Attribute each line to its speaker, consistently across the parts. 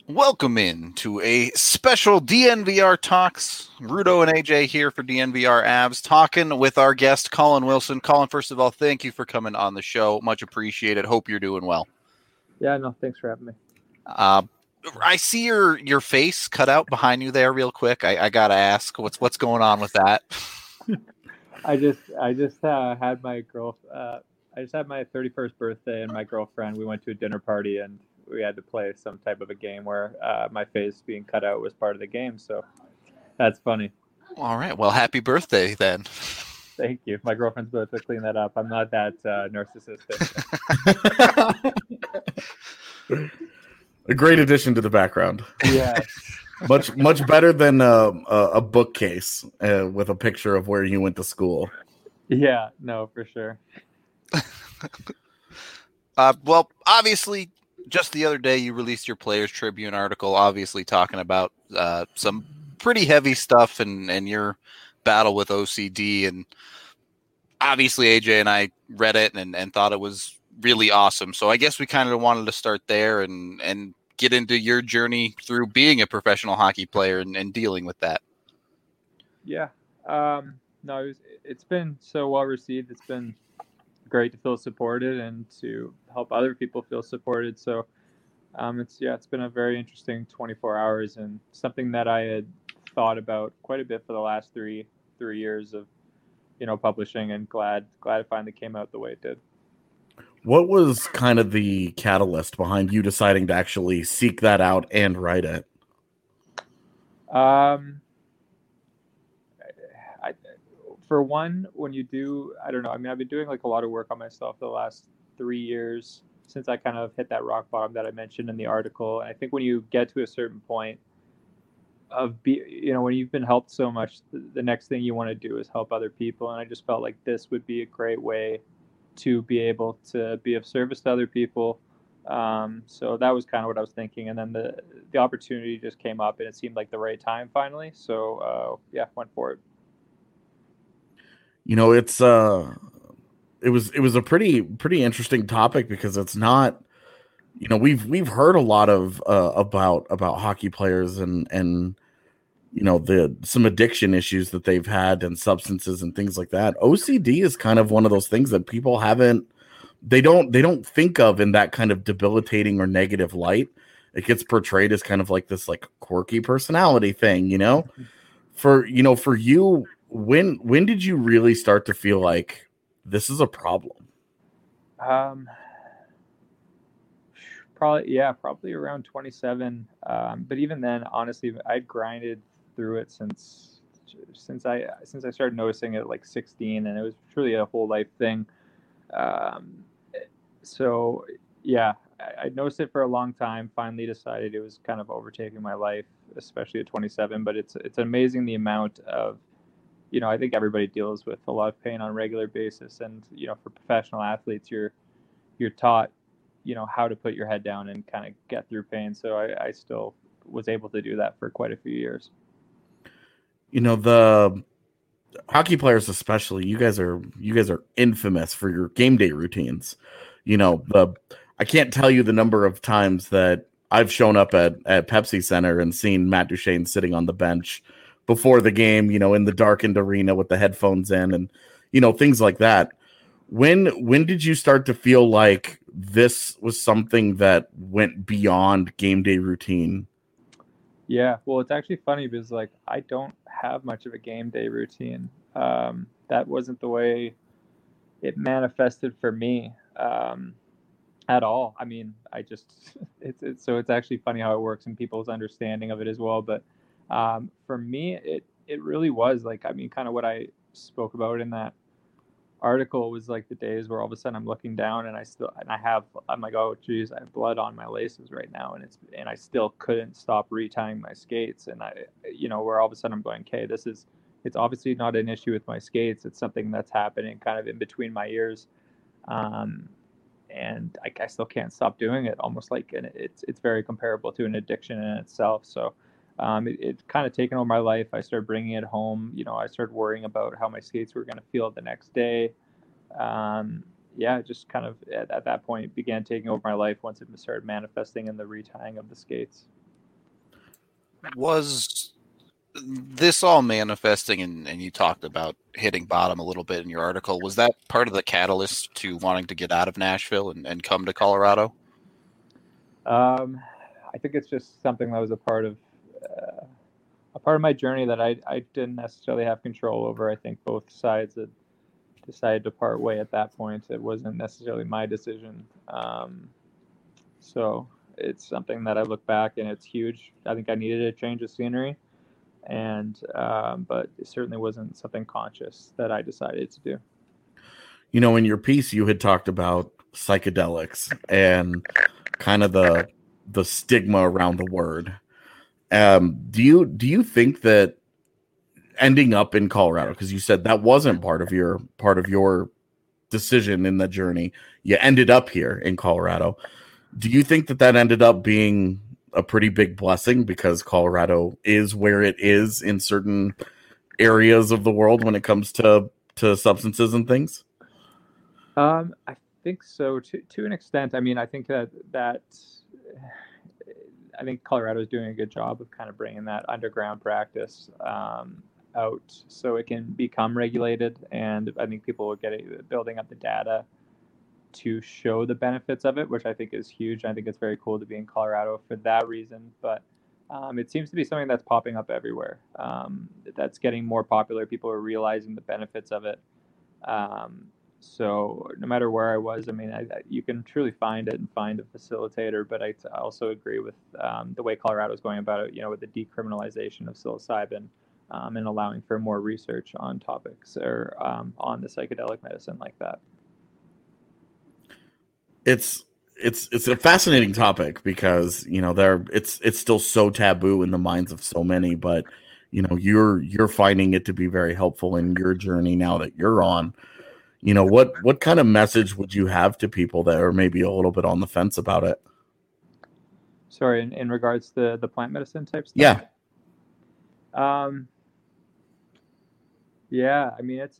Speaker 1: Welcome in to a special DNVR Talks. Rudo and AJ here for DNVR Abs, talking with our guest, Colin Wilson. Colin, first of all, thank you for coming on the show. Much appreciated. Hope you're doing well.
Speaker 2: Yeah, no, thanks for having me.
Speaker 1: I see your face cut out behind you there real quick. I got to ask, what's going on with that?
Speaker 2: I just had my I just had my 31st birthday, and my girlfriend, we went to a dinner party, and we had to play some type of a game where my face being cut out was part of the game. So that's funny.
Speaker 1: All right. Well, happy birthday then.
Speaker 2: Thank you. My girlfriend's about to clean that up. I'm not that narcissistic.
Speaker 3: A great addition to the background.
Speaker 2: Yeah.
Speaker 3: Much better than a bookcase with a picture of where you went to school.
Speaker 2: Yeah, no, for sure.
Speaker 1: Well, obviously, just the other day you released your Players Tribune article, obviously talking about some pretty heavy stuff and your battle with OCD. And obviously AJ and I read it and thought it was really awesome. So I guess we kind of wanted to start there and get into your journey through being a professional hockey player and dealing with that.
Speaker 2: Yeah. No, it's been so well received. It's been great to feel supported and to help other people feel supported. So it's been a very interesting 24 hours and something that I had thought about quite a bit for the last three years of publishing, and glad it finally came out the way it did.
Speaker 3: What was kind of the catalyst behind you deciding to actually seek that out and write it?
Speaker 2: For one, when you do, I don't know. I mean, I've been doing like a lot of work on myself the last 3 years since I kind of hit that rock bottom that I mentioned in the article. And I think when you get to a certain point of when you've been helped so much, the next thing you want to do is help other people. And I just felt like this would be a great way to be able to be of service to other people. So that was kind of what I was thinking. And then the opportunity just came up, and it seemed like the right time finally. So went for it.
Speaker 3: It's it was a pretty interesting topic because it's not, we've heard a lot of about hockey players and some addiction issues that they've had and substances and things like that. OCD is kind of one of those things that people they don't think of in that kind of debilitating or negative light. It gets portrayed as kind of like this like quirky personality thing, For you, when did you really start to feel like this is a problem?
Speaker 2: Probably around 27. But even then, honestly, I'd grinded through it since I started noticing it at like 16, and it was truly a whole life thing. So yeah, I noticed it for a long time. Finally decided it was kind of overtaking my life, especially at 27. But it's amazing the amount of, I think everybody deals with a lot of pain on a regular basis, and for professional athletes, you're taught, how to put your head down and kind of get through pain. So I still was able to do that for quite a few years.
Speaker 3: The hockey players, especially, you guys are infamous for your game day routines. I can't tell you the number of times that I've shown up at Pepsi Center and seen Matt Duchene sitting on the bench before the game, in the darkened arena with the headphones in and, things like that. When did you start to feel like this was something that went beyond game day routine?
Speaker 2: Yeah, well, it's actually funny because like I don't have much of a game day routine. That wasn't the way it manifested for me at all. I mean, I just it's actually funny how it works and people's understanding of it as well. But for me, it really was like, I mean, kind of what I spoke about in that article was like the days where all of a sudden I'm looking down and I'm like, oh geez, I have blood on my laces right now, and I still couldn't stop retying my skates, and where all of a sudden I'm going, okay, it's obviously not an issue with my skates, it's something that's happening kind of in between my ears, and I still can't stop doing it, almost like, and it's very comparable to an addiction in itself. So it kind of taken over my life. I started bringing it home. I started worrying about how my skates were going to feel the next day. Just kind of at that point began taking over my life once it started manifesting in the retying of the skates.
Speaker 1: Was this all manifesting, and you talked about hitting bottom a little bit in your article? Was that part of the catalyst to wanting to get out of Nashville and come to Colorado?
Speaker 2: I think it's just something that was a part of my journey that I didn't necessarily have control over. I think both sides had decided to part way at that point. It wasn't necessarily my decision. So it's something that I look back and it's huge. I think I needed a change of scenery, and but it certainly wasn't something conscious that I decided to do.
Speaker 3: You know, in your piece, you had talked about psychedelics and kind of the stigma around the word. Do you think that ending up in Colorado, because you said that wasn't part of your decision in the journey, you ended up here in Colorado. Do you think that ended up being a pretty big blessing because Colorado is where it is in certain areas of the world when it comes to substances and things?
Speaker 2: I think so to an extent. I mean, I think that I think Colorado is doing a good job of kind of bringing that underground practice out so it can become regulated, and I think people are building up the data to show the benefits of it, which I think is huge. I think it's very cool to be in Colorado for that reason, but it seems to be something that's popping up everywhere. That's getting more popular. People are realizing the benefits of it. So no matter where I was, I mean, you can truly find it and find a facilitator. But I also agree with the way Colorado is going about it. You know, with the decriminalization of psilocybin and allowing for more research on topics or on the psychedelic medicine like that.
Speaker 3: It's a fascinating topic because, you know, it's still so taboo in the minds of so many, but you know, you're finding it to be very helpful in your journey now that you're on. You know, what kind of message would you have to people that are maybe a little bit on the fence about it?
Speaker 2: Sorry, in regards to the plant medicine type stuff?
Speaker 3: Yeah.
Speaker 2: Yeah, I mean,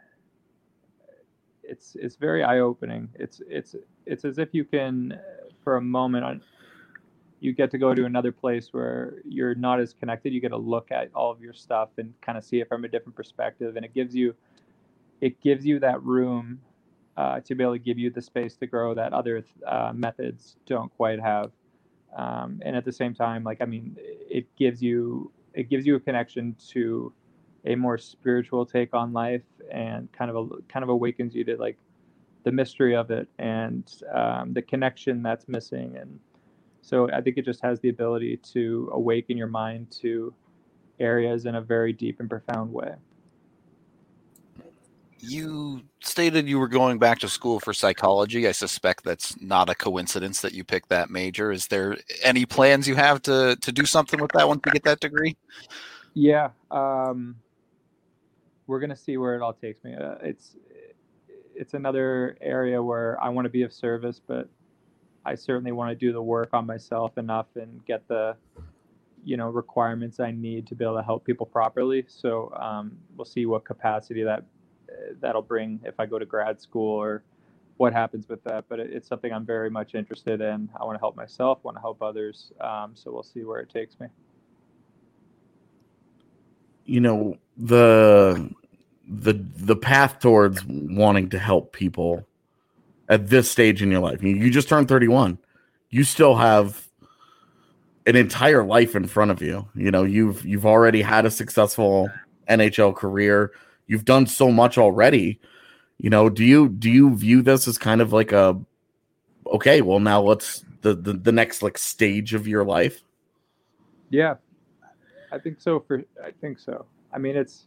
Speaker 2: it's very eye-opening. It's as if you can, for a moment, you get to go to another place where you're not as connected. You get to look at all of your stuff and kind of see it from a different perspective, and it gives you that room to be able to give you the space to grow that other methods don't quite have. And at the same time, like, I mean, it gives you a connection to a more spiritual take on life, and kind of awakens you to like the mystery of it and the connection that's missing. And so I think it just has the ability to awaken your mind to areas in a very deep and profound way.
Speaker 1: You stated you were going back to school for psychology. I suspect that's not a coincidence that you picked that major. Is there any plans you have to do something with that once you get that degree?
Speaker 2: Yeah, we're gonna see where it all takes me. It's another area where I want to be of service, but I certainly want to do the work on myself enough and get the requirements I need to be able to help people properly. So we'll see what capacity that'll bring if I go to grad school or what happens with that. But it's something I'm very much interested in. I want to help myself, want to help others. So we'll see where it takes me.
Speaker 3: You know, the path towards wanting to help people at this stage in your life. You just turned 31. You still have an entire life in front of you. You know, you've already had a successful NHL career. You've done so much already. You know, do you view this as kind of like okay, well, now what's the next like stage of your life?
Speaker 2: Yeah, I think so. I mean, it's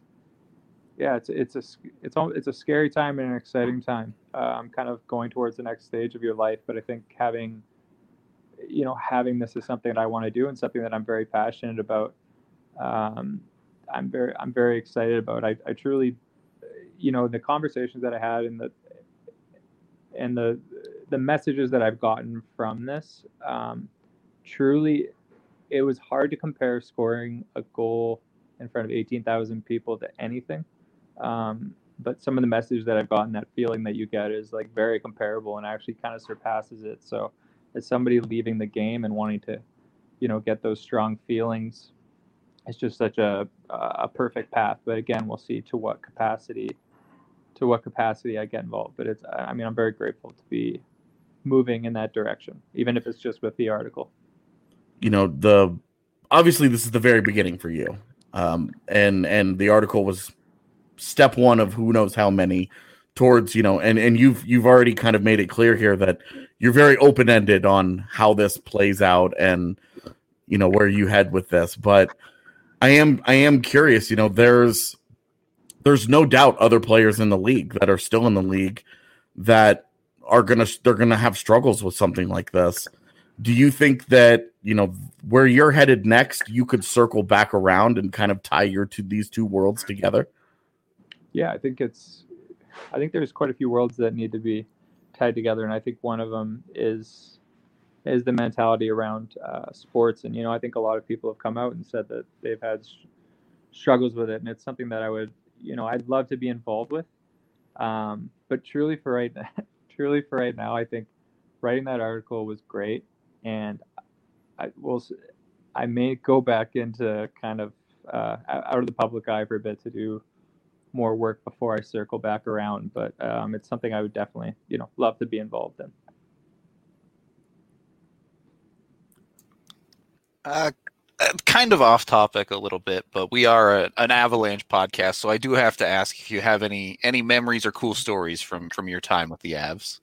Speaker 2: a scary time and an exciting time. Kind of going towards the next stage of your life, but I think having this is something that I want to do and something that I'm very passionate about. I'm very excited about. I truly, the conversations that I had and the messages that I've gotten from this, truly, it was hard to compare scoring a goal in front of 18,000 people to anything. But some of the messages that I've gotten, that feeling that you get is like very comparable and actually kind of surpasses it. So as somebody leaving the game and wanting to, get those strong feelings it's just such a perfect path. But again, we'll see to what capacity I get involved. But I mean, I'm very grateful to be moving in that direction, even if it's just with the article.
Speaker 3: Obviously this is the very beginning for you, and the article was step one of who knows how many towards, and you've already kind of made it clear here that you're very open-ended on how this plays out and where you head with this. But I am curious, there's no doubt other players in the league that are still in the league that they're gonna have struggles with something like this. Do you think that, where you're headed next, you could circle back around and kind of tie these two worlds together?
Speaker 2: Yeah, I think there's quite a few worlds that need to be tied together, and I think one of them is the mentality around sports. And I think a lot of people have come out and said that they've had struggles with it, and it's something that I'd love to be involved with. But truly for right now, I think writing that article was great, and I may go back into kind of out of the public eye for a bit to do more work before I circle back around. But it's something I would definitely, love to be involved in.
Speaker 1: Kind of off topic a little bit, but we are an Avalanche podcast, so I do have to ask if you have any memories or cool stories from your time with the Avs.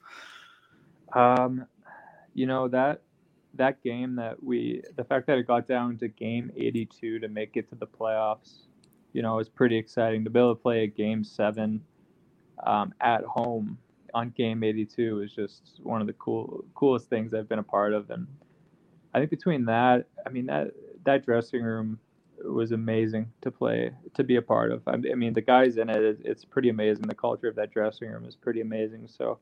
Speaker 2: That game the fact that it got down to game 82 to make it to the playoffs, was pretty exciting. To be able to play a game 7 at home on game 82 is just one of the coolest things I've been a part of. And I think between that, that dressing room was amazing to be a part of. I mean, the guys in it, it's pretty amazing. The culture of that dressing room is pretty amazing. So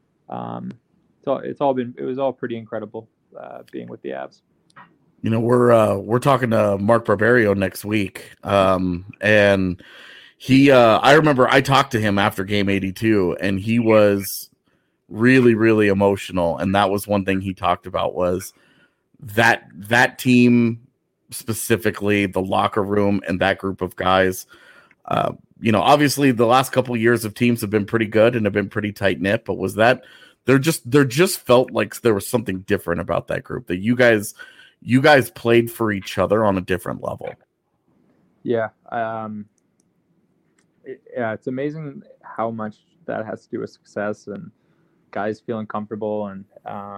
Speaker 2: it was all pretty incredible being with the Avs.
Speaker 3: We're talking to Mark Barberio next week, and he I remember I talked to him after game 82, and he was really, really emotional. And that was one thing he talked about, was that team, specifically the locker room and that group of guys. Obviously the last couple of years of teams have been pretty good and have been pretty tight knit, but was that there just felt like there was something different about that group, that you guys played for each other on a different level.
Speaker 2: Yeah. It's amazing how much that has to do with success and guys feeling comfortable. And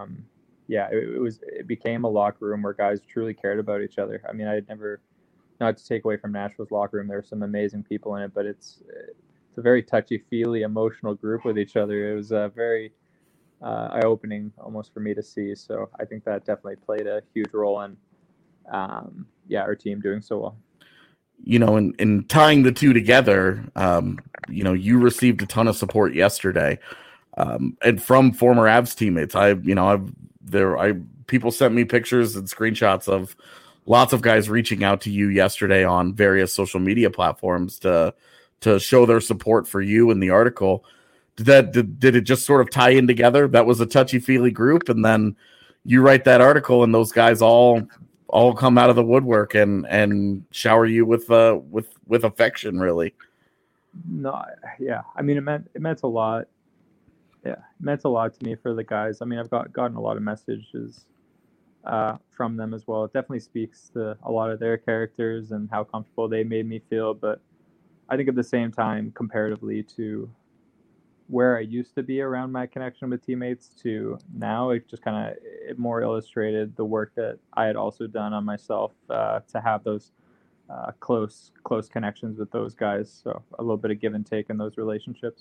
Speaker 2: it became a locker room where guys truly cared about each other. I mean, not to take away from Nashville's locker room, there are some amazing people in it, but it's a very touchy-feely, emotional group with each other. It was very eye-opening almost for me to see. So I think that definitely played a huge role in our team doing so well.
Speaker 3: In tying the two together, you received a ton of support yesterday, and from former Avs teammates. People sent me pictures and screenshots of lots of guys reaching out to you yesterday on various social media platforms to show their support for you in the article. Did it just sort of tie in together? That was a touchy-feely group, and then you write that article, and those guys all come out of the woodwork and shower you with affection, really.
Speaker 2: No, yeah. I mean, it meant a lot. Yeah, it meant a lot to me for the guys. I mean, I've gotten a lot of messages from them as well. It definitely speaks to a lot of their characters and how comfortable they made me feel. But I think at the same time, comparatively to where I used to be around my connection with teammates to now, it just kind of more illustrated the work that I had also done on myself to have those close connections with those guys. So a little bit of give and take in those relationships.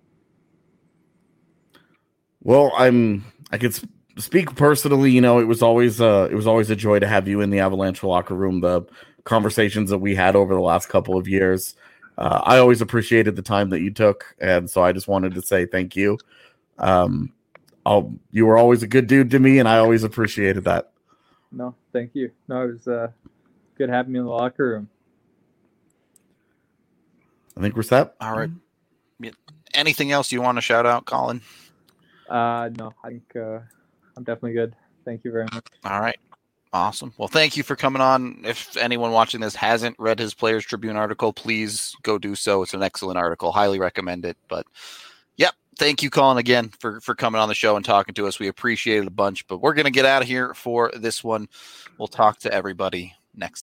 Speaker 3: Well, I could speak personally. It was always a joy to have you in the Avalanche locker room. The conversations that we had over the last couple of years, I always appreciated the time that you took, and so I just wanted to say thank you. You were always a good dude to me, and I always appreciated that.
Speaker 2: No, thank you. No, it was good having me in the locker room.
Speaker 3: I think we're set.
Speaker 1: All right. Anything else you want to shout out, Colin?
Speaker 2: No, I think I'm definitely good. Thank you very much.
Speaker 1: All right. Awesome. Well, thank you for coming on. If anyone watching this hasn't read his Players Tribune article, please go do so. It's an excellent article. Highly recommend it. But yep, thank you, Colin, again for coming on the show and talking to us. We appreciate it a bunch, but we're going to get out of here for this one. We'll talk to everybody next